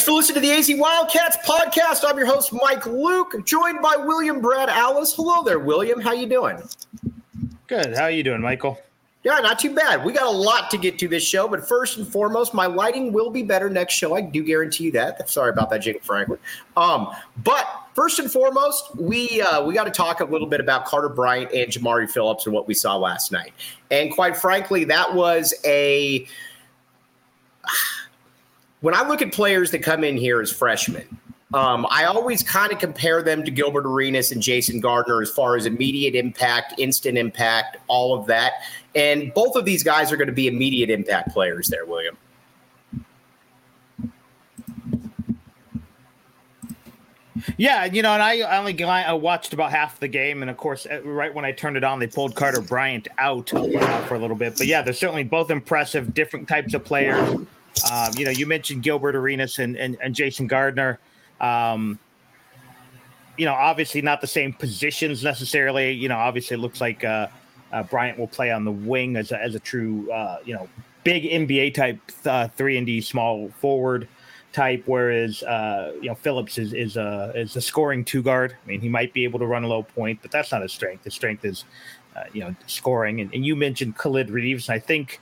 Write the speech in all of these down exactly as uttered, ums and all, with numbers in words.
for listening to the A Z Wildcats podcast. I'm your host, Mike Luke, joined by William Brad Alice. Hello there, William. How you doing? Good. How are you doing, Michael? Yeah, not too bad. We got a lot to get to this show, but first and foremost, my lighting will be better next show. I do guarantee you that. Sorry about that, Jake Franklin. Um, but first and foremost, we uh, we got to talk a little bit about Carter Bryant and Jamari Phillips and what we saw last night. And quite frankly, that was a – when I look at players that come in here as freshmen, Um, I always kind of compare them to Gilbert Arenas and Jason Gardner as far as immediate impact, instant impact, all of that. And both of these guys are going to be immediate impact players there, William. Yeah, you know, and I only I watched about half the game, and of course, right when I turned it on, they pulled Carter Bryant out uh, for a little bit. But yeah, they're certainly both impressive, different types of players. Um, you know, you mentioned Gilbert Arenas and, and, and Jason Gardner. Um, you know, obviously not the same positions necessarily. You know, obviously it looks like uh, uh, Bryant will play on the wing as a, as a true, uh, you know, big N B A type uh, three and D small forward type, whereas uh, you know Phillips is is a is a scoring two guard. I mean, he might be able to run a low point, but that's not his strength. His strength is uh, you know scoring. And, and you mentioned Khalid Reeves, and I think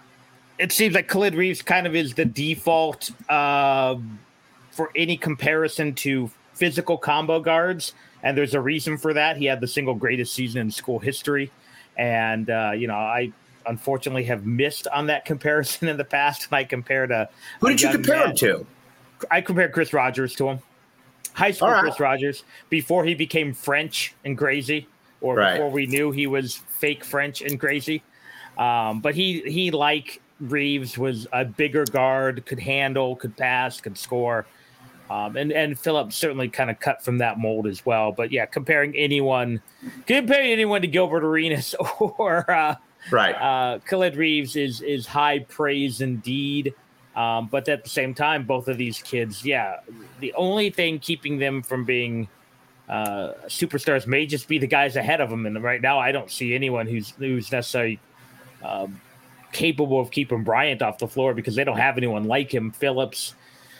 it seems like Khalid Reeves kind of is the default. Uh, for any comparison to physical combo guards. And there's a reason for that. He had the single greatest season in school history. And, uh, you know, I unfortunately have missed on that comparison in the past. And I compared a Who did you compare man. him to? I compared Chris Rogers to him. High school right. Chris Rogers, before he became French and crazy, or right. before we knew he was fake French and crazy. Um, but he, he, like Reeves, was a bigger guard, could handle, could pass, could score. Um, and, and Phillips certainly kind of cut from that mold as well. But, yeah, comparing anyone comparing anyone to Gilbert Arenas or uh, right. uh, Khalid Reeves is is high praise indeed. Um, but at the same time, both of these kids, yeah, the only thing keeping them from being uh, superstars may just be the guys ahead of them. And right now I don't see anyone who's, who's necessarily um, capable of keeping Bryant off the floor because they don't have anyone like him. Phillips.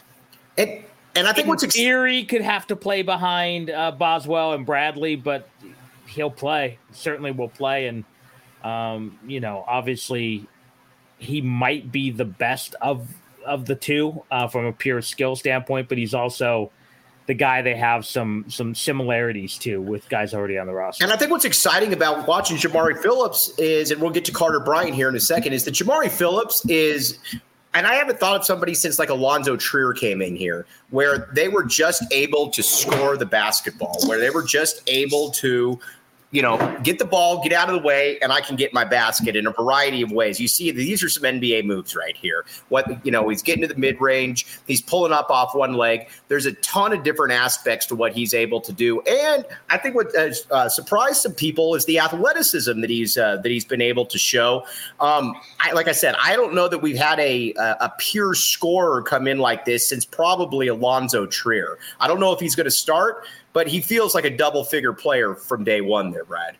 It- And I think in what's ex- theory could have to play behind uh, Boswell and Bradley, but he'll play. Certainly will play. And, um, you know, obviously he might be the best of of the two uh, from a pure skill standpoint, but he's also the guy they have some some similarities to with guys already on the roster. And I think what's exciting about watching Jamari Phillips is, and we'll get to Carter Bryant here in a second, is that Jamari Phillips is – and I haven't thought of somebody since like Alonzo Trier came in here, where they were just able to score the basketball, where they were just able to, you know, get the ball, get out of the way, and I can get my basket in a variety of ways. You see, these are some N B A moves right here. What, you know, he's getting to the mid-range. He's pulling up off one leg. There's a ton of different aspects to what he's able to do. And I think what has uh, surprised some people is the athleticism that he's uh, that he's been able to show. Um, I, like I said, I don't know that we've had a, a a pure scorer come in like this since probably Alonzo Trier. I don't know if he's going to start, but he feels like a double-figure player from day one there, Brad.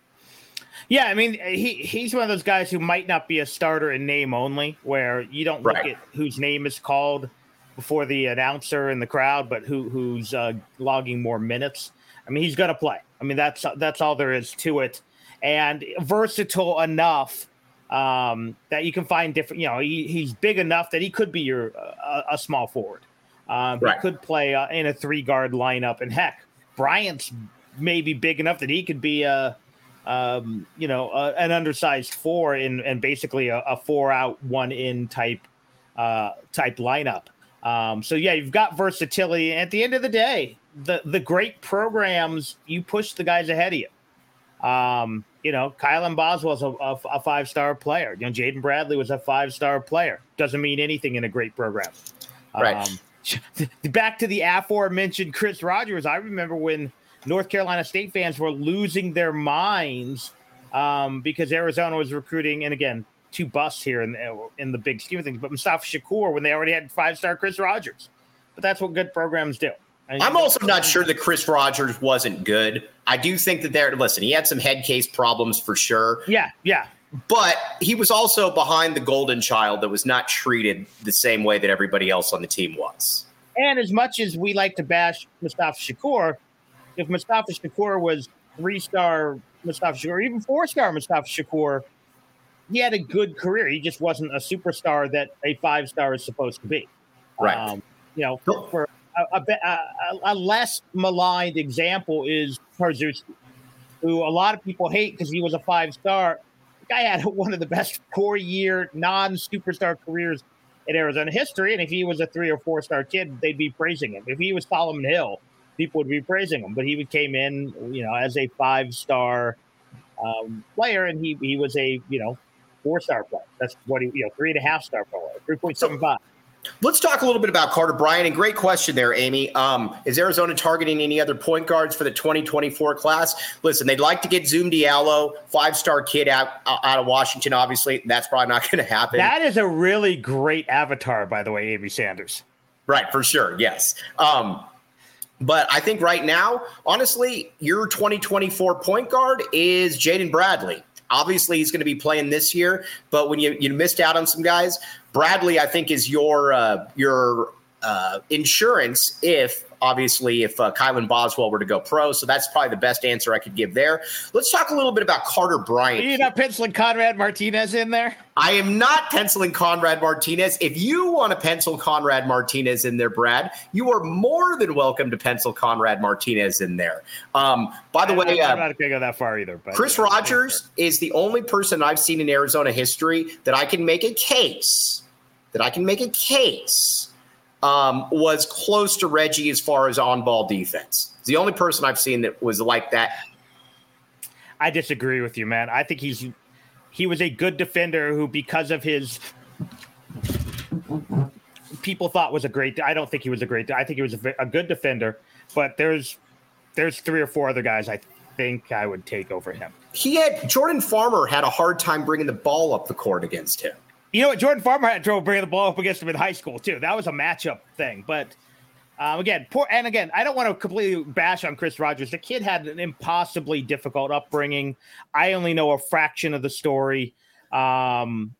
Yeah, I mean, he he's one of those guys who might not be a starter in name only, where you don't look right. at whose name is called before the announcer in the crowd, but who who's uh, logging more minutes. I mean, he's going to play. I mean, that's that's all there is to it. And versatile enough um, that you can find different, you know, he, he's big enough that he could be your uh, a small forward. Um, right. He could play uh, in a three-guard lineup. And, heck, Bryant's maybe big enough that he could be a, um, you know, a, an undersized four in and basically a, a four-out, one-in type uh, type lineup. Um, so, yeah, you've got versatility. At the end of the day, the, the great programs, you push the guys ahead of you. Um, you know, Kylan Boswell's a, a, a five-star player. You know, Jaden Bradley was a five-star player. Doesn't mean anything in a great program. Right. Um, back to the aforementioned Chris Rogers. I remember when North Carolina State fans were losing their minds um, because Arizona was recruiting, and again, two busts here in, in the big scheme of things, but Mustafa Shakur when they already had five-star Chris Rogers. But that's what good programs do. And I'm also not sure that Chris Rogers wasn't good. I do think that there, listen, he had some head case problems for sure. Yeah, yeah. But he was also behind the golden child that was not treated the same way that everybody else on the team was. And as much as we like to bash Mustafa Shakur, if Mustafa Shakur was three-star Mustafa Shakur, even four-star Mustafa Shakur, he had a good career. He just wasn't a superstar that a five-star is supposed to be. Right. Um, you know, for, for a, a, a, a less maligned example is Parzewski, who a lot of people hate because he was a five-star. The guy had one of the best four-year non-superstar careers in Arizona history, and if he was a three or four star kid, they'd be praising him. If he was Solomon Hill, people would be praising him. But he came in, you know, as a five star um, player, and he he was a you know four star player. That's what he you know three and a half star player, three point seven five. Let's talk a little bit about Carter Bryant. And great question there, Amy. Um, is Arizona targeting any other point guards for the twenty twenty-four class? Listen, they'd like to get Zoom Diallo, five-star kid out out of Washington, obviously. That's probably not going to happen. That is a really great avatar, by the way, Amy Sanders. Right, for sure, yes. Um, but I think right now, honestly, your twenty twenty-four point guard is Jaden Bradley. Obviously, he's going to be playing this year, but when you, you missed out on some guys, Bradley, I think, is your uh, your uh, insurance if, obviously, if uh, Kylan Boswell were to go pro. So that's probably the best answer I could give there. Let's talk a little bit about Carter Bryant. You're not penciling Conrad Martinez in there? I am not penciling Conrad Martinez. If you want to pencil Conrad Martinez in there, Brad, you are more than welcome to pencil Conrad Martinez in there. Um, by the I'm way, not, uh, I'm not going to go that far either. But Chris yeah, Rogers is the only person I've seen in Arizona history that I can make a case, that I can make a case, um, was close to Reggie as far as on-ball defense. It's the only person I've seen that was like that. I disagree with you, man. I think he's he was a good defender who, because of his people thought was a great. I don't think he was a great. I think he was a, a good defender, but there's there's three or four other guys I think I would take over him. He had Jordan Farmer had a hard time bringing the ball up the court against him. You know what? Jordan Farmer had trouble bringing the ball up against him in high school too. That was a matchup thing. But um, again, poor and again, I don't want to completely bash on Chris Rogers. The kid had an impossibly difficult upbringing. I only know a fraction of the story. Um,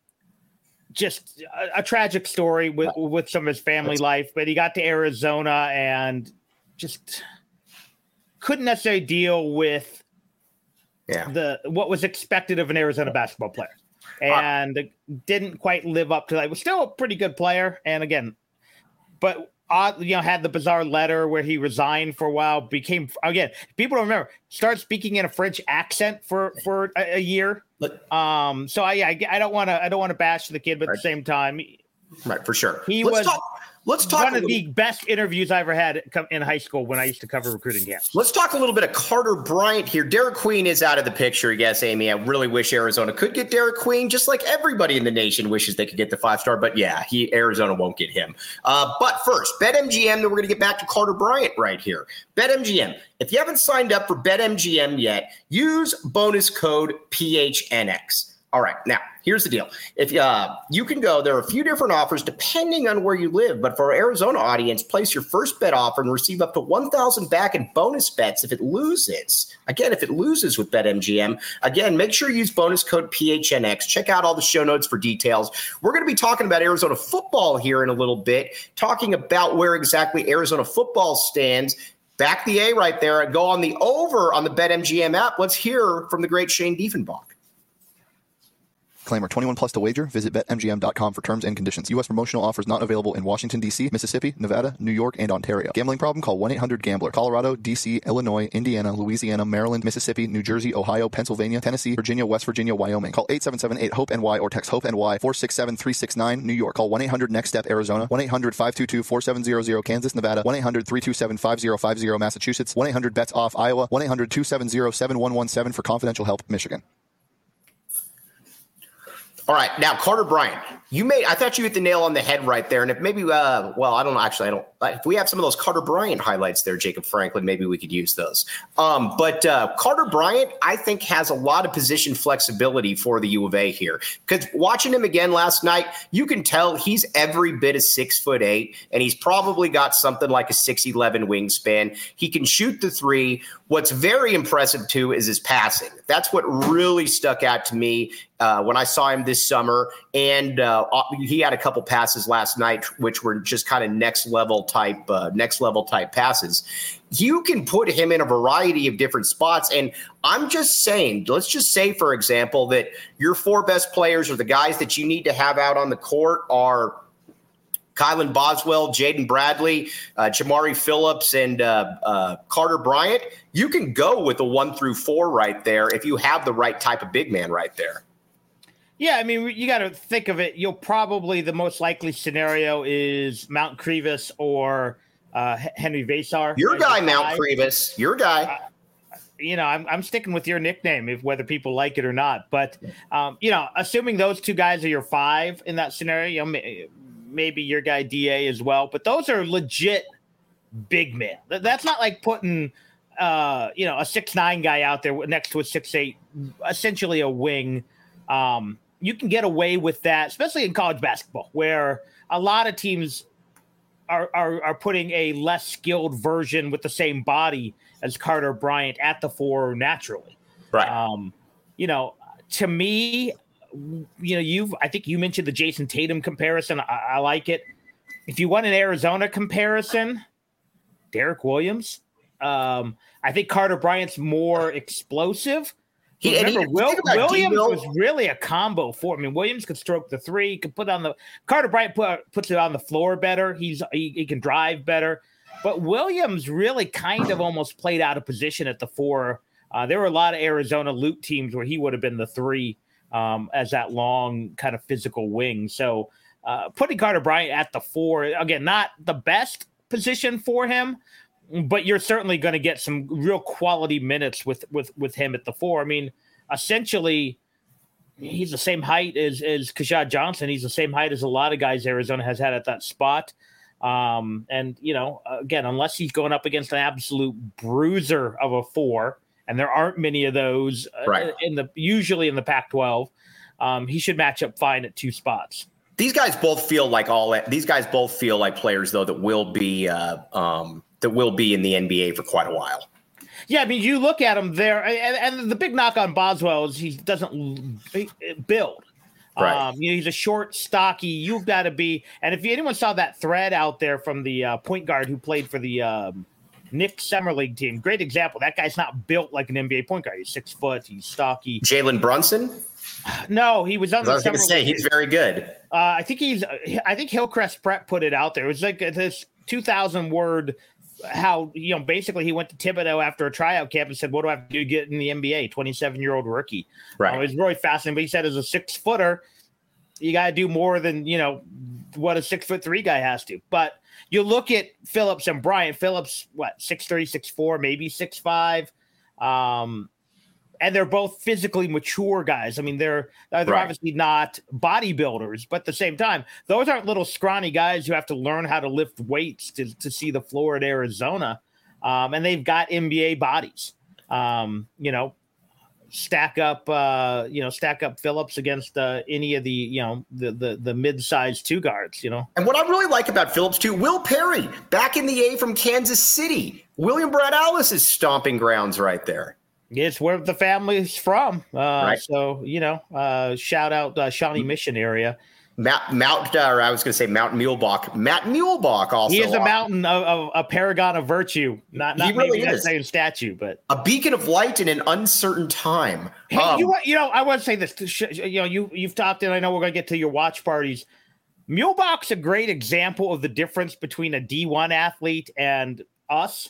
just a, a tragic story with with some of his family life. But he got to Arizona and just couldn't necessarily deal with yeah. the what was expected of an Arizona basketball player. And uh, didn't quite live up to that. Was still a pretty good player. And again, but odd, you know, had the bizarre letter where he resigned for a while, became, again, people don't remember, started speaking in a French accent for, for a, a year. Um, so I, I, I don't want to, I don't want to bash the kid, but right. at the same time, right. For sure. He Let's was talk. Let's talk one of the best interviews I ever had in high school when I used to cover recruiting camps. Let's talk a little bit of Carter Bryant here. Derek Queen is out of the picture. Yes, Amy, I really wish Arizona could get Derek Queen, just like everybody in the nation wishes they could get the five-star. But yeah, he Arizona won't get him. Uh, but first, BetMGM, then we're going to get back to Carter Bryant right here. BetMGM, if you haven't signed up for BetMGM yet, use bonus code P H N X. All right, now, here's the deal. If uh, you can go, there are a few different offers depending on where you live. But for our Arizona audience, place your first bet offer and receive up to one thousand dollars back in bonus bets if it loses. Again, if it loses with BetMGM, again, make sure you use bonus code P H N X. Check out all the show notes for details. We're going to be talking about Arizona football here in a little bit, talking about where exactly Arizona football stands. Back the A right there and go on the over on the BetMGM app. Let's hear from the great Shane Diefenbach. Disclaimer, twenty-one plus to wager. Visit Bet M G M dot com for terms and conditions. U S promotional offers not available in Washington, D C, Mississippi, Nevada, New York, and Ontario. Gambling problem? Call one eight hundred gambler. Colorado, D C, Illinois, Indiana, Louisiana, Maryland, Mississippi, New Jersey, Ohio, Pennsylvania, Tennessee, Virginia, West Virginia, Wyoming. Call eight seven seven eight HOPE N Y or text HOPE N Y four six seven three six nine. New York. Call one eight hundred next step Arizona. one eight hundred five two two four seven zero zero Kansas, Nevada. one eight hundred three two seven five zero five zero Massachusetts. one eight hundred bets off Iowa. one eight hundred two seven zero seven one one seven for confidential help, Michigan. All right, now Carter Bryant, you made. I thought you hit the nail on the head right there. And if maybe, uh, well, I don't know. Actually, I don't. If we have some of those Carter Bryant highlights there, Jacob Franklin, maybe we could use those. Um, but uh, Carter Bryant, I think, has a lot of position flexibility for the U of A here. Because watching him again last night, you can tell he's every bit of six foot eight, and he's probably got something like a six eleven wingspan. He can shoot the three. What's very impressive too is his passing. That's what really stuck out to me uh, when I saw him this summer. And uh, he had a couple passes last night, which were just kind of next level type, uh, next level type passes. You can put him in a variety of different spots. And I'm just saying, let's just say, for example, that your four best players or the guys that you need to have out on the court are Kylan Boswell, Jaden Bradley, uh, Jamari Phillips, and uh, uh, Carter Bryant. You can go with a one through four right there if you have the right type of big man right there. Yeah, I mean, you got to think of it. You'll probably, the most likely scenario is Mount Crevis or uh, Henry Vasar. Your guy, Mount Crevis. Your guy. Uh, you know, I'm I'm sticking with your nickname, if whether people like it or not. But um, you know, assuming those two guys are your five in that scenario, you know, maybe your guy D A as well. But those are legit big men. That's not like putting uh, you know, a six nine guy out there next to a six eight, essentially a wing. Um, you can get away with that, especially in college basketball, where a lot of teams are, are, are putting a less skilled version with the same body as Carter Bryant at the four naturally. Right. Um, you know, to me, you know, you've, I think you mentioned the Jason Tatum comparison. I, I like it. If you want an Arizona comparison, Derek Williams. Um, I think Carter Bryant's more explosive. He, Remember, he, Will, Williams D-Mill. was really a combo for. I mean, Williams could stroke the three, could put on the Carter Bryant put, puts it on the floor better. He's he, he can drive better, but Williams really kind of almost played out of position at the four. Uh, there were a lot of Arizona loot teams where he would have been the three um, as that long kind of physical wing. So uh, putting Carter Bryant at the four, again, not the best position for him, but you're certainly going to get some real quality minutes with, with, with him at the four. I mean, essentially, he's the same height as, as Keshad Johnson. He's the same height as a lot of guys Arizona has had at that spot. Um, and, you know, again, unless he's going up against an absolute bruiser of a four, and there aren't many of those right. in the usually in the Pac twelve, um, he should match up fine at two spots. These guys both feel like all these guys both feel like players, though, that will be uh, um, that will be in the N B A for quite a while. Yeah, I mean, you look at him there, and, and the big knock on Boswell is he doesn't build. Right. Um, you know, he's a short, stocky. You've got to be. And if anyone saw that thread out there from the uh, point guard who played for the um, Nick Summer League team, great example. That guy's not built like an N B A point guard. He's six foot. He's stocky. Jalen Brunson. No, he was on the I was going to say he's very good. Uh, I think he's. I think Hillcrest Prep put it out there. It was like this two thousand word. How, you know, basically he went to Thibodeau after a tryout camp and said, what do I have to do to get in the N B A? twenty-seven year old rookie. Right. Uh, it was really fascinating. But he said, as a six footer, you got to do more than, you know, what a six foot three guy has to. But you look at Phillips and Bryant. Phillips, what, six three, six four, maybe six five. Um, and they're both physically mature guys. I mean, they're they're right. obviously not bodybuilders, but at the same time, those aren't little scrawny guys who have to learn how to lift weights to, to see the floor at Arizona. Um, and they've got N B A bodies. Um, you know, stack up, uh, you know, stack up Phillips against uh, any of the, you know, the the the mid-sized two guards. You know, and what I really like about Phillips too, Will Perry back in the A from Kansas City, William Brad Alice's stomping grounds right there. It's where the family's from. Uh, right. So, you know, uh, shout out uh, Shawnee Mission area. Mount, Mount uh, or I was going to say Mount Muehlebach. Matt Muehlebach also. He is a mountain of, of a paragon of virtue. Not, not he really maybe that is. same statue, but a beacon of light in an uncertain time. Hey, um, you, you know, I want to say this. You know, you, you've talked, and I know we're going to get to your watch parties. Muehlebach's a great example of the difference between a D one athlete and us.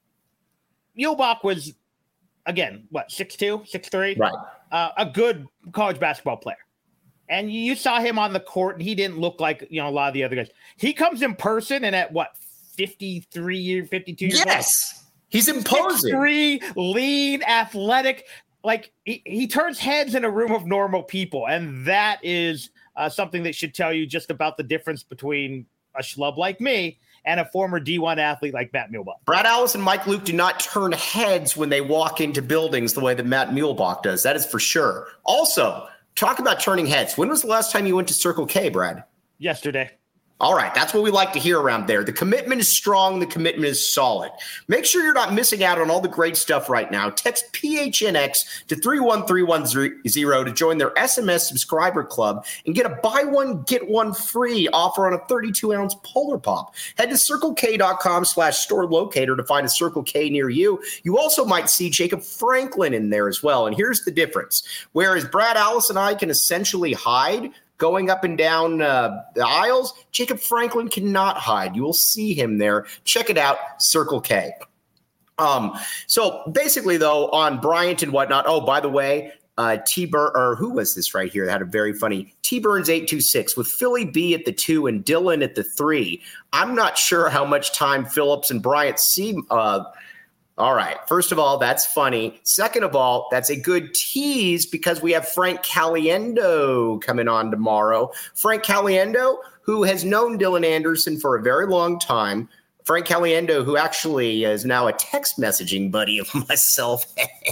Muehlebach was, again, what, six two, six three? Right. Uh, a good college basketball player. And you saw him on the court, and he didn't look like, you know, a lot of the other guys. He comes in person, and at, what, fifty-three, fifty-two years old? Yes. He's imposing. six three, lean, athletic. Like, he, he turns heads in a room of normal people, and that is uh, something that should tell you just about the difference between a schlub like me and a former D one athlete like Matt Muehlebach. Brad Alice and Mike Luke do not turn heads when they walk into buildings the way that Matt Muehlebach does. That is for sure. Also, talk about turning heads. When was the last time you went to Circle K, Brad? Yesterday. All right, that's what we like to hear around there. The commitment is strong. The commitment is solid. Make sure you're not missing out on all the great stuff right now. Text P H N X to three one three one zero to join their S M S subscriber club and get a buy one, get one free offer on a thirty-two ounce Polar Pop. Head to CircleK.com slash store locator to find a Circle K near you. You also might see Jacob Franklin in there as well. And here's the difference. Whereas Brad, Alice, and I can essentially hide going up and down uh, the aisles, Jacob Franklin cannot hide. You will see him there. Check it out, Circle K. Um, so basically, though, on Bryant and whatnot, oh, by the way, uh, T. Burn, or who was this right here that had a very funny T. Burns eight two six with Philly B at the two and Dylan at the three. I'm not sure how much time Phillips and Bryant see. Uh, All right. First of all, that's funny. Second of all, that's a good tease because we have Frank Caliendo coming on tomorrow. Frank Caliendo, who has known Dylan Anderson for a very long time. Frank Caliendo, who actually is now a text messaging buddy of myself.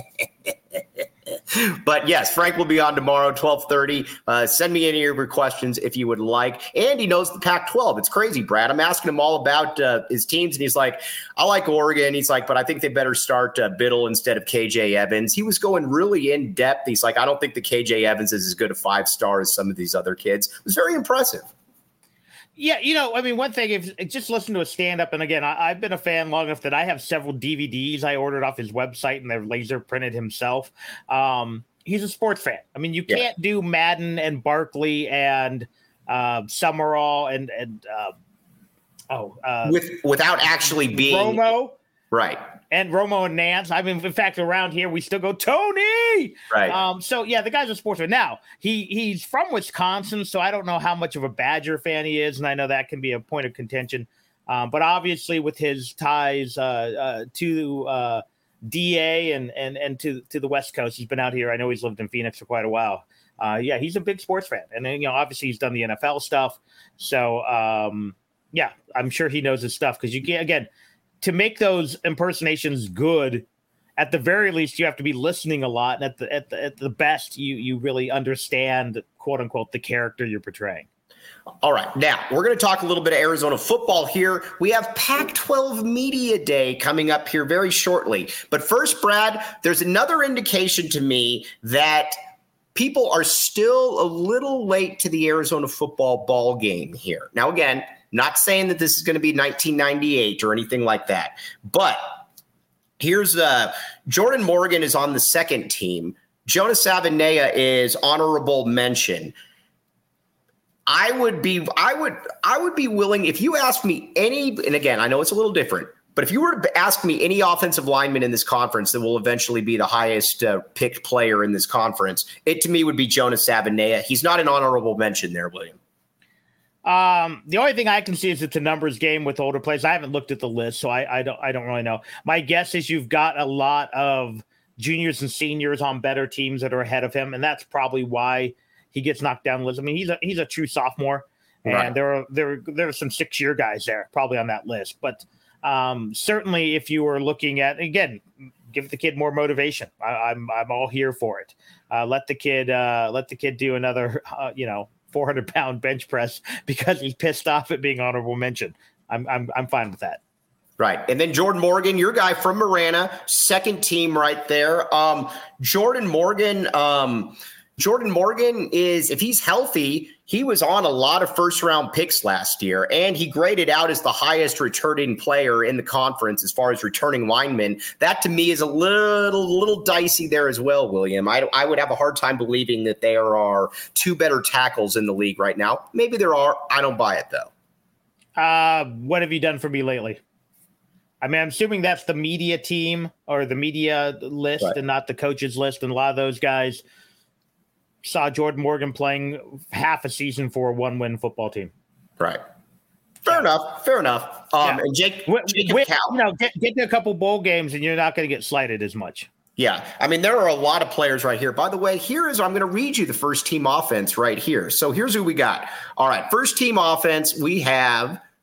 But yes, Frank will be on tomorrow, twelve thirty. Uh, send me any of your questions if you would like. And he knows the Pac twelve. It's crazy, Brad. I'm asking him all about uh, his teams, and he's like, I like Oregon. He's like, but I think they better start uh, Biddle instead of K J Evans. He was going really in depth. He's like, I don't think the K J Evans is as good a five-star as some of these other kids. It was very impressive. Yeah, you know, I mean, one thing, if just listen to a stand-up, and again, I, I've been a fan long enough that I have several D V Ds I ordered off his website, and they're laser printed himself. Um, he's a sports fan. I mean, you can't yeah. do Madden and Barkley and uh, Summerall and and uh, oh, uh, with without actually being Romo, right? And Romo and Nance. I mean, in fact, around here we still go Tony. Right. Um, so yeah, the guy's a sportsman. Now he he's from Wisconsin, so I don't know how much of a Badger fan he is, and I know that can be a point of contention. Um, but obviously, with his ties uh, uh, to uh, D A and and and to to the West Coast, he's been out here. I know he's lived in Phoenix for quite a while. Uh, yeah, he's a big sports fan, and then you know, obviously, he's done the N F L stuff. So um, yeah, I'm sure he knows his stuff because you can't again. To make those impersonations good, at the very least, you have to be listening a lot. And at the at the, at the best, you you really understand, quote unquote, the character you're portraying. All right. Now, we're going to talk a little bit of Arizona football here. We have Pac twelve Media Day coming up here very shortly. But first, Brad, there's another indication to me that people are still a little late to the Arizona football ball game here. Now, again, not saying that this is going to be nineteen ninety-eight or anything like that, but here's uh, Jordan Morgan is on the second team. Jonas Savaiinaea is honorable mention. I would be, I would, I would be willing if you asked me any, and again, I know it's a little different, but if you were to ask me any offensive lineman in this conference that will eventually be the highest uh, picked player in this conference, it to me would be Jonas Savaiinaea. He's not an honorable mention there, William. Um, the only thing I can see is it's a numbers game with older players. I haven't looked at the list, so I, I don't I don't really know. My guess is you've got a lot of juniors and seniors on better teams that are ahead of him, and that's probably why he gets knocked down the list. I mean, he's a he's a true sophomore, and right. there are there there are some six year guys there probably on that list. But um, certainly, if you were looking at again, give the kid more motivation. I, I'm I'm all here for it. Uh, let the kid uh, let the kid do another uh, you know. four hundred pound bench press because he's pissed off at being honorable mention. I'm I'm I'm fine with that. Right. And then Jordan Morgan, your guy from Marana, second team right there. Um, Jordan Morgan, um, Jordan Morgan is, if he's healthy, he was on a lot of first round picks last year, and he graded out as the highest returning player in the conference as far as returning linemen. That to me is a little, little dicey there as well, William. I, I would have a hard time believing that there are two better tackles in the league right now. Maybe there are. I don't buy it though. Uh, what have you done for me lately? I mean, I'm assuming that's the media team or the media list right. and not the coaches list. And a lot of those guys saw Jordan Morgan playing half a season for a one-win football team. Right. Fair yeah. enough. Fair enough. Um, yeah. And Jake, Jacob With, Cal- you know, get, get to a couple bowl games and you're not going to get slighted as much. Yeah. I mean, there are a lot of players right here. By the way, here is, I'm going to read you the first team offense right here. So here's who we got. All right. First team offense, we have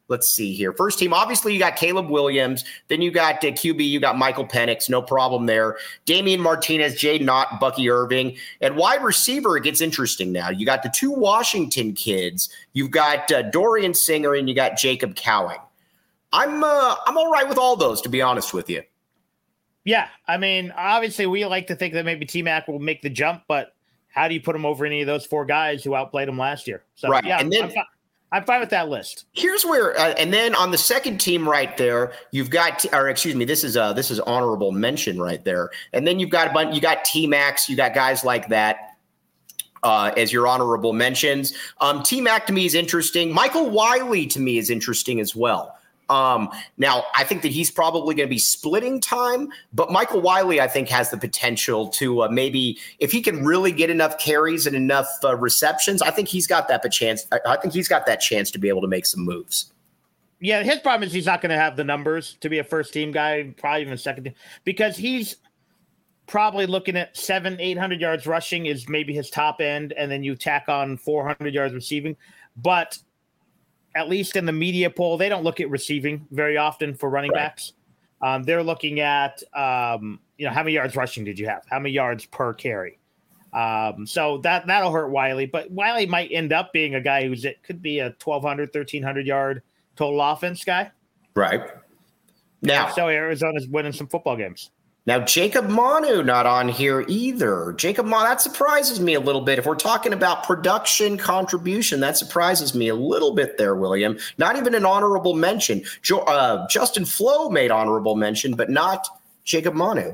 let's see here. First team, obviously you got Caleb Williams. Then you got uh, Q B, you got Michael Penix, no problem there. Damian Martinez, Jay Knott, Bucky Irving. And wide receiver, it gets interesting now. You got the two Washington kids. You've got uh, Dorian Singer and you got Jacob Cowing. I'm uh, I'm all right with all those, to be honest with you. Yeah, I mean, obviously we like to think that maybe T-Mac will make the jump, but how do you put him over any of those four guys who outplayed him last year? So, right. yeah, and then, I'm, fi- I'm fine with that list. Here's where, uh, and then on the second team right there, you've got, or excuse me, this is uh this is honorable mention right there, and then you've got a bunch, you got T-Max, you got guys like that. Uh, as your honorable mentions, um, T-Mac to me is interesting. Michael Wiley to me is interesting as well. Um, now, I think that he's probably going to be splitting time, but Michael Wiley, I think, has the potential to uh, maybe, if he can really get enough carries and enough uh, receptions, I think he's got that chance. I, I think he's got that chance to be able to make some moves. Yeah, his problem is he's not going to have the numbers to be a first team guy, probably even a second team, because he's probably looking at seven, eight hundred yards rushing is maybe his top end, and then you tack on four hundred yards receiving, but at least in the media poll, they don't look at receiving very often for running right. backs. Um, they're looking at, um, you know, how many yards rushing did you have? How many yards per carry? Um, so that, that'll hurt Wiley. But Wiley might end up being a guy who's it could be a twelve hundred, thirteen hundred yard total offense guy. Right. Now, so Arizona's winning some football games. Now, Jacob Manu not on here either. Jacob Manu, that surprises me a little bit. If we're talking about production contribution, that surprises me a little bit there, William. Not even an honorable mention. Jo- uh, Justin Flo made honorable mention, but not Jacob Manu.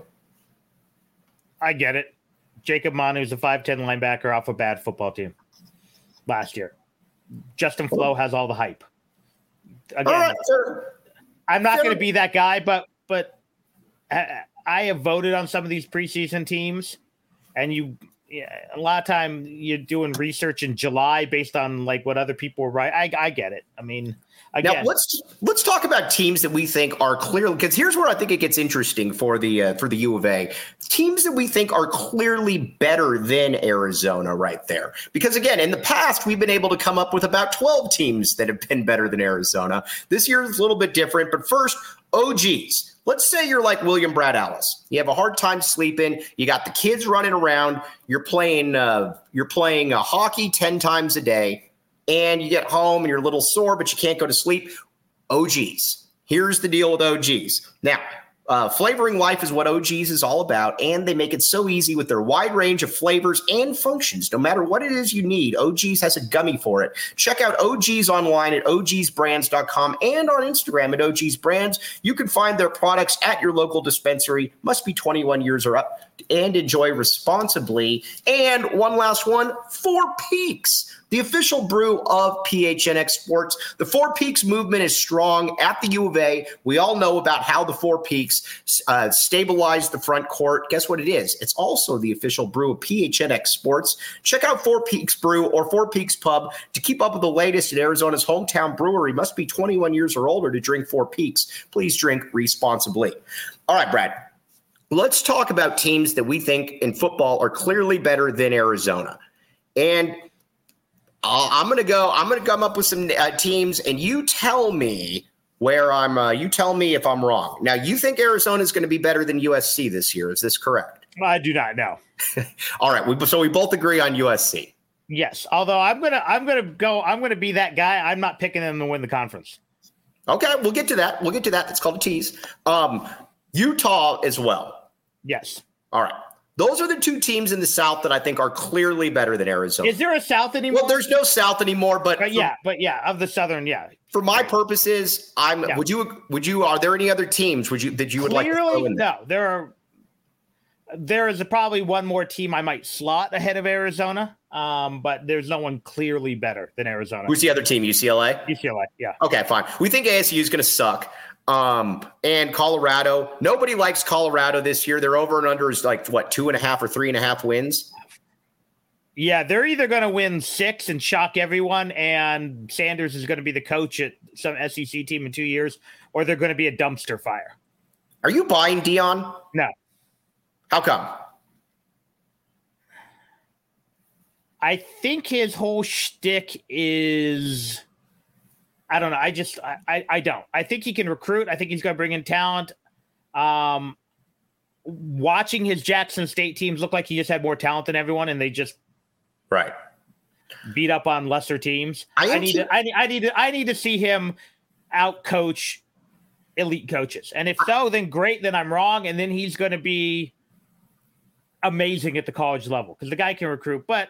I get it. Jacob Manu is a five ten linebacker off a bad football team last year. Justin Flo has all the hype. Again, all right, sir. I'm not going to be that guy, but but. Uh, I have voted on some of these preseason teams, and you yeah, a lot of time you're doing research in July based on like what other people were right. I, I get it. I mean, again, now let's let's talk about teams that we think are clearly, because here's where I think it gets interesting for the uh, for the U of A. Teams that we think are clearly better than Arizona right there. Because again, in the past, we've been able to come up with about twelve teams that have been better than Arizona. This year is a little bit different, but first, O Gs. Let's say you're like William Brad Alice. You have a hard time sleeping. You got the kids running around. You're playing uh, you're playing uh, hockey ten times a day, and you get home and you're a little sore, but you can't go to sleep. O Gs. Here's the deal with O Gs. Now, uh, flavoring life is what O Gs is all about, and they make it so easy with their wide range of flavors and functions. No matter what it is you need, O Gs has a gummy for it. Check out O Gs online at O Gs brands dot com and on Instagram at O Gs Brands. You can find their products at your local dispensary. Must be twenty-one years or up, and enjoy responsibly. And one last one, Four Peaks, the official brew of P H N X Sports. The Four Peaks movement is strong at the U of A. We all know about how the Four Peaks uh, stabilized the front court. Guess what it is? It's also the official brew of P H N X Sports. Check out Four Peaks Brew or Four Peaks Pub to keep up with the latest in Arizona's hometown brewery. Must be twenty-one years or older to drink Four Peaks. Please drink responsibly. All right, Brad. Let's talk about teams that we think in football are clearly better than Arizona. And Uh, I'm going to go, I'm going to come up with some uh, teams, and you tell me where I'm, uh, you tell me if I'm wrong. Now, you think Arizona is going to be better than U S C this year. Is this correct? I do not know. All right. We, so we both agree on U S C. Yes. Although I'm going to, I'm going to go, I'm going to be that guy. I'm not picking them to win the conference. Okay. We'll get to that. We'll get to that. That's called a tease. Um, Utah as well. Yes. All right. Those are the two teams in the South that I think are clearly better than Arizona. Is there a South anymore? Well, there's no South anymore, but, but for, yeah, but yeah, of the Southern, yeah. For my purposes, I'm. Yeah. Would you? Would you? Are there any other teams? Would you that you would clearly, like? To throw in there? No, there are. There is a, probably one more team I might slot ahead of Arizona, um, but there's no one clearly better than Arizona. Who's the other team? U C L A. U C L A, yeah. Okay, fine. We think A S U is going to suck. Um, and Colorado, nobody likes Colorado this year. Their over and under is like what, two and a half or three and a half wins. Yeah, they're either going to win six and shock everyone, and Sanders is going to be the coach at some S E C team in two years, or they're going to be a dumpster fire. Are you buying Dion? No. How come? I think his whole shtick is. I don't know. I just I, I, I don't. I think he can recruit. I think he's going to bring in talent. Um, watching his Jackson State teams look like he just had more talent than everyone, and they just right beat up on lesser teams. I, I need to, I need I need to I need to see him out coach elite coaches, and if so, then great. Then I'm wrong, and then he's going to be amazing at the college level because the guy can recruit. But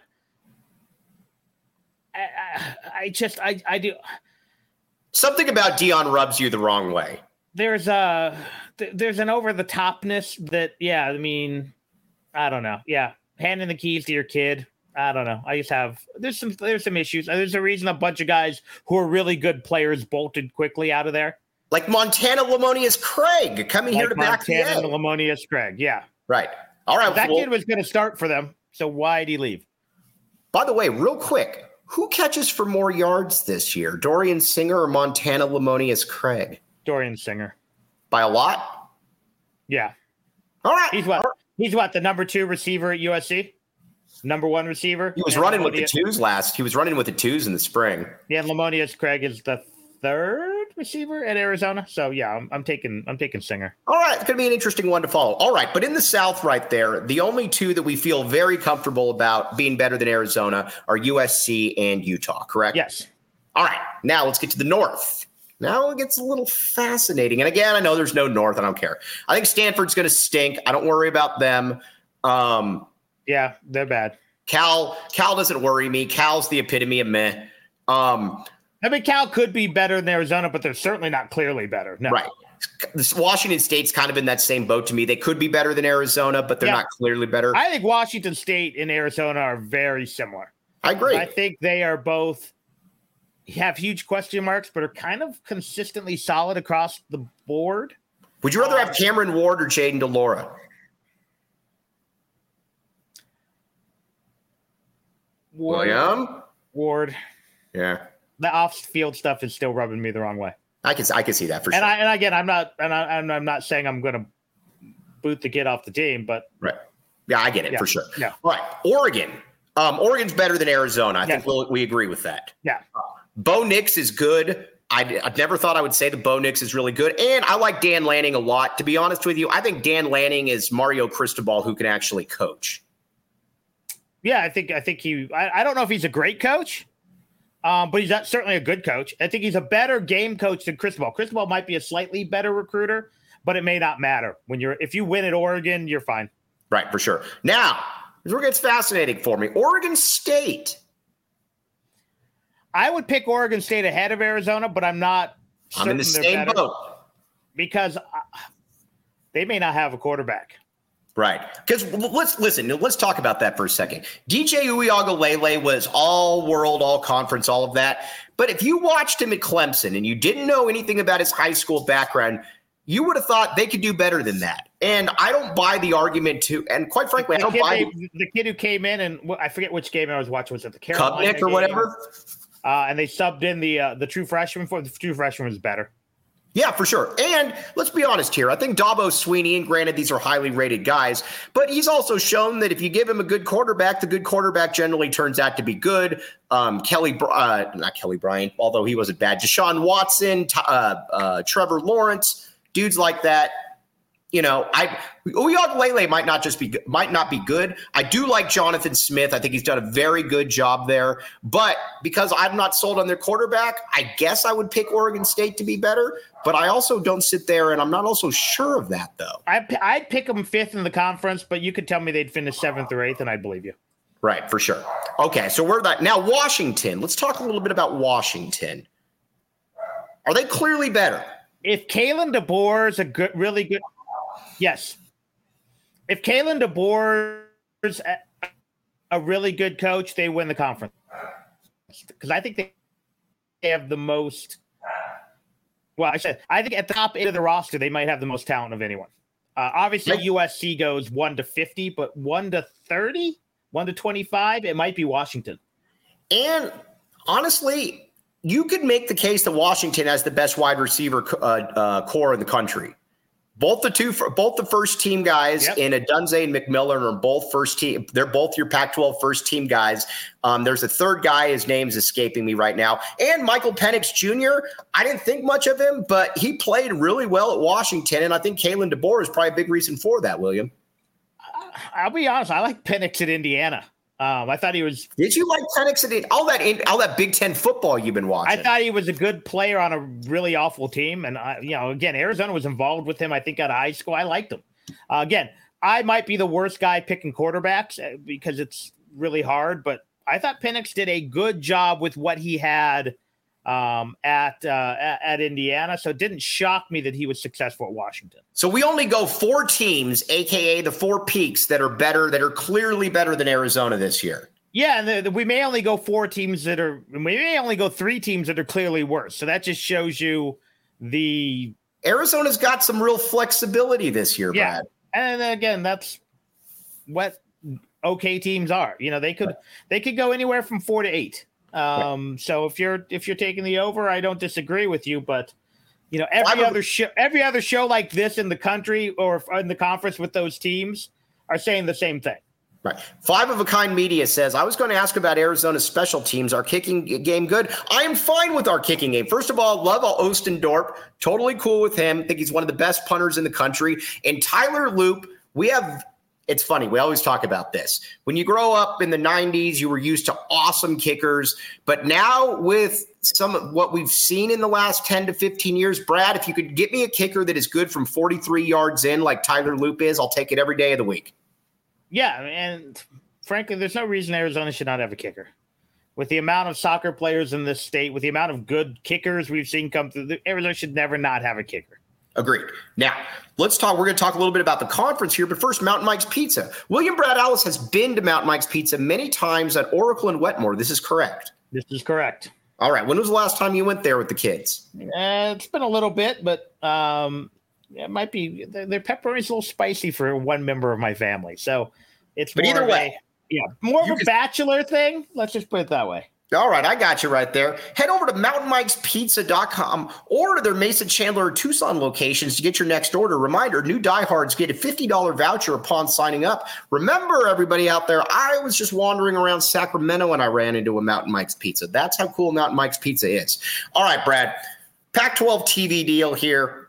I, I, I just I I do. Something about Dion rubs you the wrong way. There's a there's an over the topness that yeah I mean I don't know yeah handing the keys to your kid I don't know I just have there's some there's some issues. There's a reason a bunch of guys who are really good players bolted quickly out of there, like Montana Lamonius Craig coming like here to Montana back the end. Lamonius Craig yeah right all right that well, kid was going to start for them, so why did he leave? By the way, real quick, who catches for more yards this year, Dorian Singer or Montana Lamonius Craig? Dorian Singer. By a lot? Yeah. All right. He's what? Right. He's what? The number two receiver at U S C? Number one receiver? He was and running Lamonius, with the twos last. He was running with the twos in the spring. Yeah, Lamonius Craig is the third receiver at Arizona. So yeah, I'm, I'm taking I'm taking Singer. All right. It's going to be an interesting one to follow. All right. But in the South right there, the only two that we feel very comfortable about being better than Arizona are U S C and Utah, correct? Yes. All right. Now let's get to the North. Now it gets a little fascinating. And again, I know there's no North. I don't care. I think Stanford's going to stink. I don't worry about them. Um, yeah, they're bad. Cal Cal doesn't worry me. Cal's the epitome of meh. Um, I mean, Cal could be better than Arizona, but they're certainly not clearly better. No. Right. This Washington State's kind of in that same boat to me. They could be better than Arizona, but they're yeah. not clearly better. I think Washington State and Arizona are very similar. I agree. I think they are both have huge question marks, but are kind of consistently solid across the board. Would you rather have Cameron Ward or Jaden DeLaura? Ward. William? Ward. Yeah. The off-field stuff is still rubbing me the wrong way. I can I can see that for and sure. I, and again, I'm not and I, and I'm not saying I'm going to boot the kid off the team, but right. Yeah, I get it yeah, for sure. Yeah. All right. Oregon. Um, Oregon's better than Arizona. I yeah. think we'll, we agree with that. Yeah. Bo Nix is good. I, I never thought I would say that Bo Nix is really good. And I like Dan Lanning a lot. To be honest with you, I think Dan Lanning is Mario Cristobal who can actually coach. Yeah, I think I think he I, I don't know if he's a great coach, um, but he's not, certainly a good coach. I think he's a better game coach than Cristobal. Cristobal might be a slightly better recruiter, but it may not matter. When you're if you win at Oregon, you're fine. Right, for sure. Now, this where it gets fascinating for me. Oregon State. I would pick Oregon State ahead of Arizona, but I'm not. I'm in the same boat. Because they may not have a quarterback. Right. Because let's listen, let's talk about that for a second. D J Uiagalelei was all world, all conference, all of that. But if you watched him at Clemson and you didn't know anything about his high school background, you would have thought they could do better than that. And I don't buy the argument to, and quite frankly, the I don't buy they, the kid who came in and I forget which game I was watching. Was it the Carolina Cupnick or whatever? Uh, and they subbed in the uh, the true freshman for the true freshman was better. Yeah, for sure. And let's be honest here. I think Dabo Sweeney, and granted these are highly rated guys, but he's also shown that if you give him a good quarterback, the good quarterback generally turns out to be good. Um, Kelly, uh, not Kelly Bryant, although he wasn't bad. Deshaun Watson, uh, uh, Trevor Lawrence, dudes like that. You know, I Uiagalelei might not just be might not be good. I do like Jonathan Smith. I think he's done a very good job there. But because I'm not sold on their quarterback, I guess I would pick Oregon State to be better. But I also don't sit there, and I'm not also sure of that, though. I, I'd pick them fifth in the conference, but you could tell me they'd finish seventh or eighth, and I'd believe you. Right, for sure. Okay, so we're that now. Washington. Let's talk a little bit about Washington. Are they clearly better? If Kalen DeBoer is a good, really good. Yes. If Kalen DeBoer is a, a really good coach, they win the conference. Because I think they have the most – well, I said I think at the top end of the roster, they might have the most talent of anyone. Uh, obviously, U S C goes one to fifty, but one to thirty, one to twenty-five, it might be Washington. And honestly, you could make the case that Washington has the best wide receiver uh, uh, core in the country. Both the two, both the first team guys yep. in Adunze and McMillan are both first team. They're both your Pac twelve first team guys. Um, there's a third guy. His name's escaping me right now. And Michael Penix Junior I didn't think much of him, but he played really well at Washington. And I think Kalen DeBoer is probably a big reason for that, William. I'll be honest. I like Penix at Indiana. Um, I thought he was. Did you like Penix at all that all that Big Ten football you've been watching? I thought he was a good player on a really awful team, and I, you know, again, Arizona was involved with him. I think out of high school, I liked him. Uh, again, I might be the worst guy picking quarterbacks because it's really hard, but I thought Penix did a good job with what he had um, at, uh, at at Indiana. So it didn't shock me that he was successful at Washington. So we only go four teams, A K A the four peaks that are better, that are clearly better than Arizona this year. Yeah, and the, the, we may only go four teams that are – we may only go three teams that are clearly worse. So that just shows you the – Arizona's got some real flexibility this year, yeah. Brad. And again, that's what okay teams are. You know, they could they could go anywhere from four to eight. Um, so if you're if you're taking the over, I don't disagree with you, but you know, every Five other show every other show like this in the country or in the conference with those teams are saying the same thing. Right. Five of a Kind Media says, I was going to ask about Arizona's special teams. Our kicking game good? I am fine with our kicking game. First of all, love Ostendorp. Totally cool with him. Think he's one of the best punters in the country. And Tyler Loop, we have – it's funny. We always talk about this. When you grow up in the nineties, you were used to awesome kickers. But now with some of what we've seen in the last ten to fifteen years, Brad, if you could get me a kicker that is good from forty-three yards in like Tyler Loop is, I'll take it every day of the week. Yeah, and frankly, there's no reason Arizona should not have a kicker. With the amount of soccer players in this state, with the amount of good kickers we've seen come through, Arizona should never not have a kicker. Agreed. Now, let's talk. We're going to talk a little bit about the conference here, but first, Mountain Mike's Pizza. William Brad Allis has been to Mountain Mike's Pizza many times at Oracle and Wetmore. This is correct. This is correct. All right. When was the last time you went there with the kids? Uh, it's been a little bit, but um, it might be. Their pepperoni's a little spicy for one member of my family, so it's. But more either of way, a, yeah, more of you a just, bachelor thing. Let's just put it that way. All right, I got you right there. Head over to mountain mikes pizza dot com or to their Mesa, Chandler, or Tucson locations to get your next order. Reminder, new diehards get a fifty dollars voucher upon signing up. Remember, everybody out there, I was just wandering around Sacramento and I ran into a Mountain Mike's Pizza. That's how cool Mountain Mike's Pizza is. All right, Brad, Pac twelve T V deal here.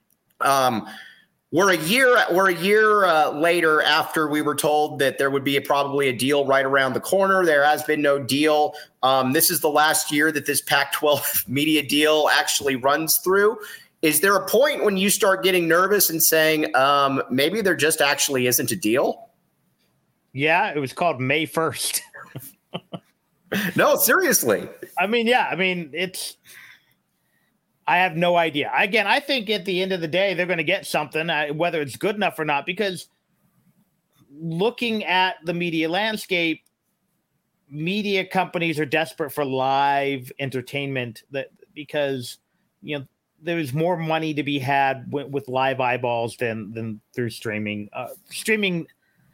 Um, We're a year we're a year uh, later after we were told that there would be a, probably a deal right around the corner. There has been no deal. Um, this is the last year that this Pac twelve media deal actually runs through. Is there a point when you start getting nervous and saying um, maybe there just actually isn't a deal? Yeah, it was called May first. No, seriously. I mean, yeah, I mean, it's – I have no idea. Again, I think at the end of the day, they're going to get something, uh, whether it's good enough or not, because looking at the media landscape, media companies are desperate for live entertainment that because, you know, there's more money to be had w- with live eyeballs than, than through streaming, uh, streaming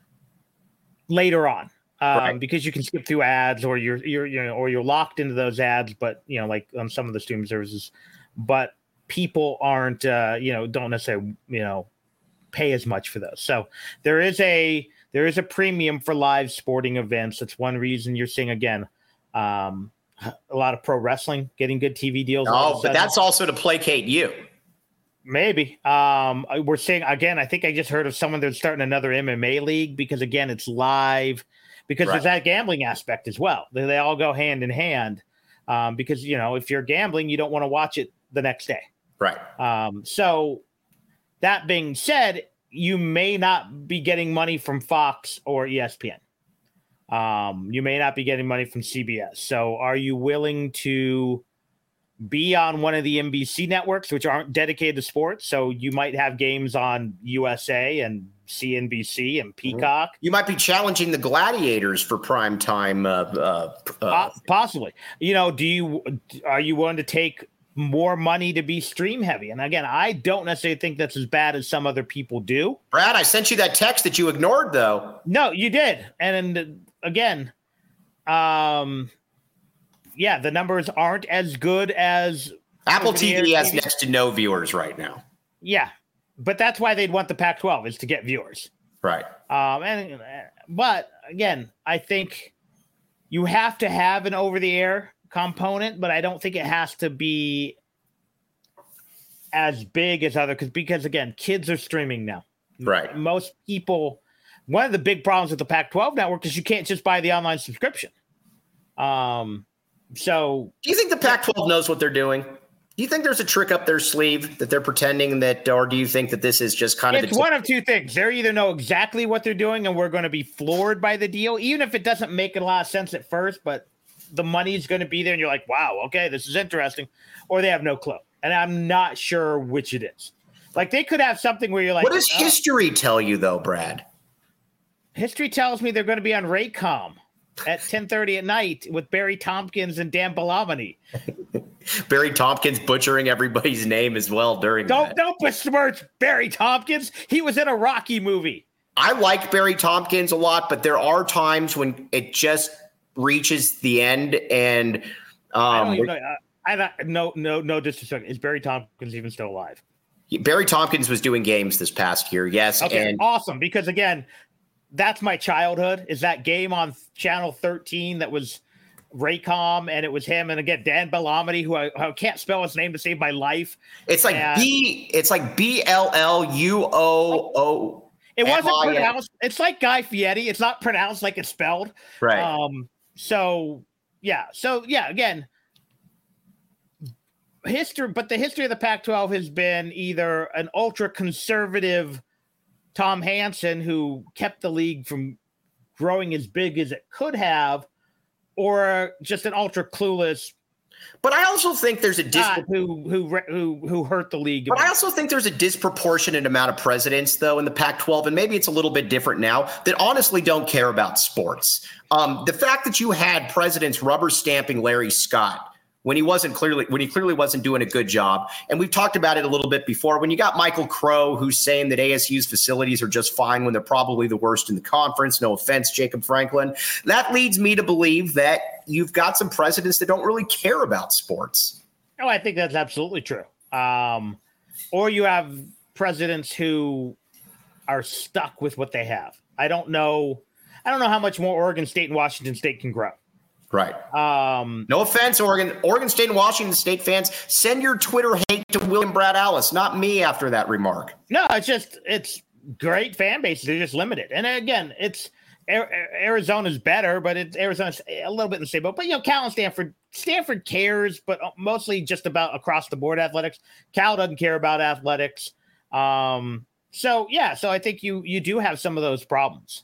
later on. Um, right. Because you can skip through ads or you're, you're, you know, or you're locked into those ads, but you know, like on some of the streaming services, but people aren't, uh, you know, don't necessarily, you know, pay as much for those. So there is a there is a premium for live sporting events. That's one reason you're seeing again um, a lot of pro wrestling getting good T V deals. Oh, but that's also to placate you. Maybe um, we're seeing again. I think I just heard of someone that's starting another M M A league because again, it's live. Because right. There's that gambling aspect as well. They, they all go hand in hand. Um, because you know, if you're gambling, you don't want to watch it the next day. Right. Um, so that being said, you may not be getting money from Fox or E S P N. Um, you may not be getting money from C B S. So are you willing to be on one of the N B C networks, which aren't dedicated to sports? So you might have games on U S A and C N B C and Peacock. You might be challenging the Gladiators for prime time. Uh, uh, uh, Possibly. You know, do you are you willing to take more money to be stream heavy? And again, I don't necessarily think that's as bad as some other people do. Brad, I sent you that text that you ignored, though. No, you did. And again, um, yeah, the numbers aren't as good as Apple T V has next to no viewers right now. Yeah. but that's why they'd want the Pac twelve is to get viewers. Right. Um, and but again, I think you have to have an over-the-air component, but I don't think it has to be as big as other because because again, kids are streaming now. Right. Most people. One of the big problems with the Pac twelve network is you can't just buy the online subscription. Um. So, do you think the Pac twelve knows what they're doing? Do you think there's a trick up their sleeve that they're pretending that, or do you think that this is just kind of it's one of two things? They either know exactly what they're doing and we're going to be floored by the deal, even if it doesn't make a lot of sense at first, but the money's going to be there and you're like, wow, okay, this is interesting, or they have no clue. And I'm not sure which it is. Like they could have something where you're like, what does oh. history tell you though, Brad? History tells me they're going to be on Raycom at ten thirty at night with Barry Tompkins and Dan Bellamini. Barry Tompkins butchering everybody's name as well during don't, that. Don't besmirch Barry Tompkins. He was in a Rocky movie. I like Barry Tompkins a lot, but there are times when it just reaches the end and um, I don't even know. I, I no no no disrespect. Is Barry Tompkins even still alive? Barry Tompkins was doing games this past year, yes. Okay, and awesome. Because again, that's my childhood. Is that game on Channel thirteen that was Raycom, and it was him, and again Dan Bellamini, who I, I can't spell his name to save my life. It's like and B. It's like B L L U O O. It wasn't pronounced. It's like Guy Fieri. It's not pronounced like it's spelled. Right. Um. So yeah. So yeah. Again, history, but the history of the Pac twelve has been either an ultra conservative Tom Hansen who kept the league from growing as big as it could have, or just an ultra clueless. But I also think there's a dispro- who who who who hurt the league. But I also think there's a disproportionate amount of presidents, though, in the Pac twelve, and maybe it's a little bit different now, that honestly don't care about sports. Um, the fact that you had presidents rubber stamping Larry Scott when he wasn't clearly when he clearly wasn't doing a good job, and we've talked about it a little bit before. When you got Michael Crow, who's saying that A S U's facilities are just fine when they're probably the worst in the conference. No offense, Jacob Franklin. That leads me to believe that you've got some presidents that don't really care about sports. Oh, I think that's absolutely true. Um, or you have presidents who are stuck with what they have. I don't know. I don't know how much more Oregon State and Washington State can grow. Right. Um, no offense, Oregon, Oregon State and Washington State fans. Send your Twitter hate to William Brad Allis, not me. After that remark. No, it's just it's great fan bases. They're just limited, and again, it's Arizona's better, but it's Arizona's a little bit in the same boat. But you know, Cal and Stanford, Stanford cares, but mostly just about across the board athletics. Cal doesn't care about athletics. Um, so yeah, so I think you you do have some of those problems.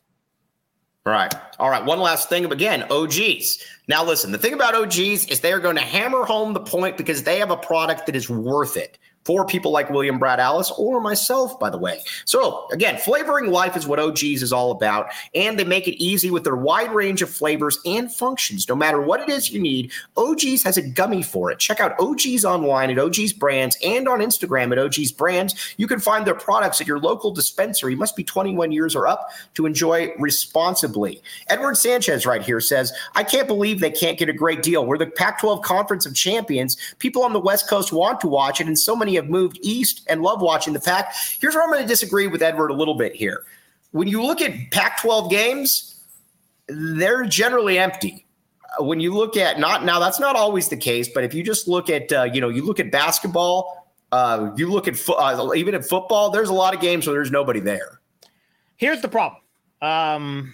Right. All right. One last thing. Again, O Gs. Now, listen, the thing about O Gs is they are going to hammer home the point because they have a product that is worth it for people like William Brad Allis or myself, by the way. So, again, flavoring life is what O Gs is all about, and they make it easy with their wide range of flavors and functions. No matter what it is you need, O Gs has a gummy for it. Check out O Gs online at O Gs Brands and on Instagram at O Gs Brands. You can find their products at your local dispensary. You must be twenty-one years or up to enjoy responsibly. Edward Sanchez right here says, I can't believe they can't get a great deal. We're the Pac twelve Conference of Champions. People on the West Coast want to watch it, and so many have moved east and love watching the Pac. Here's where I'm going to disagree with Edward a little bit here. When you look at Pac twelve games, they're generally empty. When you look at not now, that's not always the case, but if you just look at, uh, you know, you look at basketball, uh, you look at fo- uh, even at football, there's a lot of games where there's nobody there. Here's the problem. Um,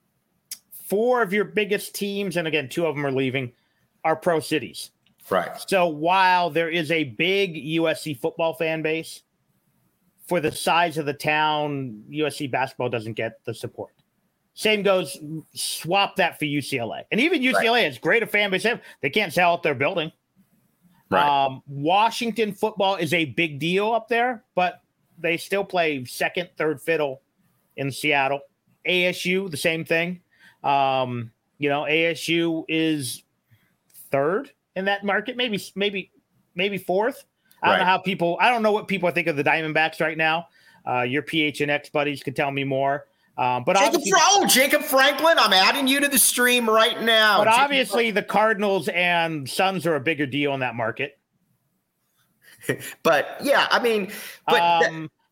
four of your biggest teams, and again, two of them are leaving, are pro cities. Right. So while there is a big U S C football fan base, for the size of the town, U S C basketball doesn't get the support. Same goes, swap that for U C L A. And even U C L A right. is great a fan base. They can't sell out their building. Right. Um, Washington football is a big deal up there, but they still play second, third fiddle in Seattle. A S U, the same thing. Um, you know, A S U is third in that market, maybe, maybe, maybe fourth. I don't right. know how people, I don't know what people think of the Diamondbacks right now. Uh, your P H N X buddies could tell me more. Um, but Jacob, oh, Jacob Franklin, I'm adding you to the stream right now. But Jacob obviously Franklin. The Cardinals and Suns are a bigger deal in that market. But yeah, I mean, but um,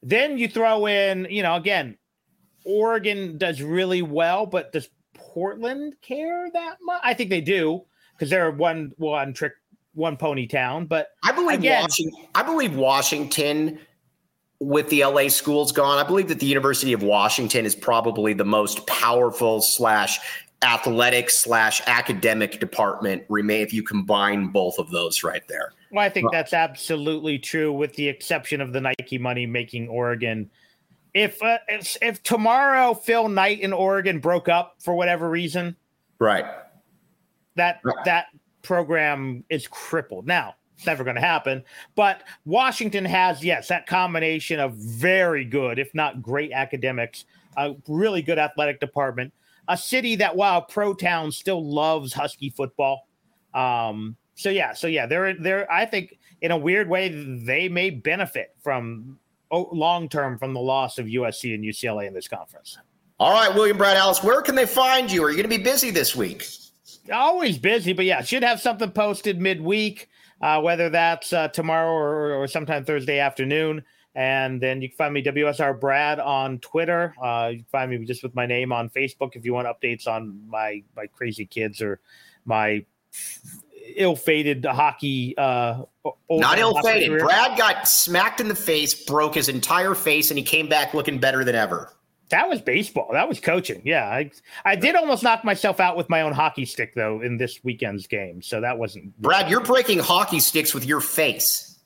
Then you throw in, you know, again, Oregon does really well, but does Portland care that much? I think they do because they're one one trick, one pony town. But I believe again, Washington, I believe Washington, with the L A schools gone, I believe that the University of Washington is probably the most powerful slash athletic slash academic department remain if you combine both of those right there. Well, I think that's absolutely true, with the exception of the Nike money making Oregon. If, uh, if if tomorrow Phil Knight in Oregon broke up for whatever reason, right, that that program is crippled. Now, it's never going to happen, but Washington has, yes, that combination of very good, if not great academics, a really good athletic department, a city that, while pro town, still loves Husky football. Um, so yeah, so yeah, they're they're. I think in a weird way they may benefit from long term from the loss of U S C and U C L A in this conference. All right, William Brad Allis, where can they find you? Are you going to be busy this week? Always busy, but yeah, should have something posted midweek, uh, whether that's uh, tomorrow or, or sometime Thursday afternoon. And then you can find me W S R Brad on Twitter. Uh, you can find me just with my name on Facebook if you want updates on my my crazy kids or my ill-fated hockey. Uh, Not ill-fated. Career. Brad got smacked in the face, broke his entire face, and he came back looking better than ever. That was baseball. That was coaching. Yeah, I I did almost knock myself out with my own hockey stick, though, in this weekend's game. So that wasn't. Brad, you're breaking hockey sticks with your face.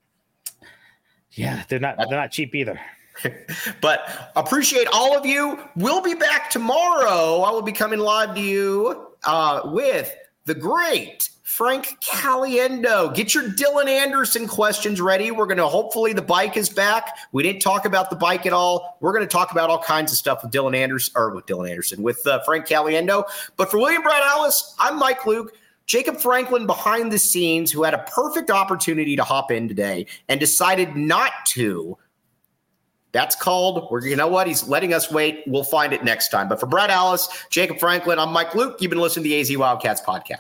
Yeah, they're not they're not cheap either. But appreciate all of you. We'll be back tomorrow. I will be coming live to you uh, with the great Frank Caliendo. Get your Dylan Anderson questions ready. We're going to hopefully the bike is back. We didn't talk about the bike at all. We're going to talk about all kinds of stuff with Dylan Anderson or with Dylan Anderson with uh, Frank Caliendo. But for William Brad Allis, I'm Mike Luke. Jacob Franklin behind the scenes, who had a perfect opportunity to hop in today and decided not to. That's called, we're, you know what? He's letting us wait. We'll find it next time. But for Brad Allis, Jacob Franklin, I'm Mike Luke. You've been listening to the A Z Wildcats podcast.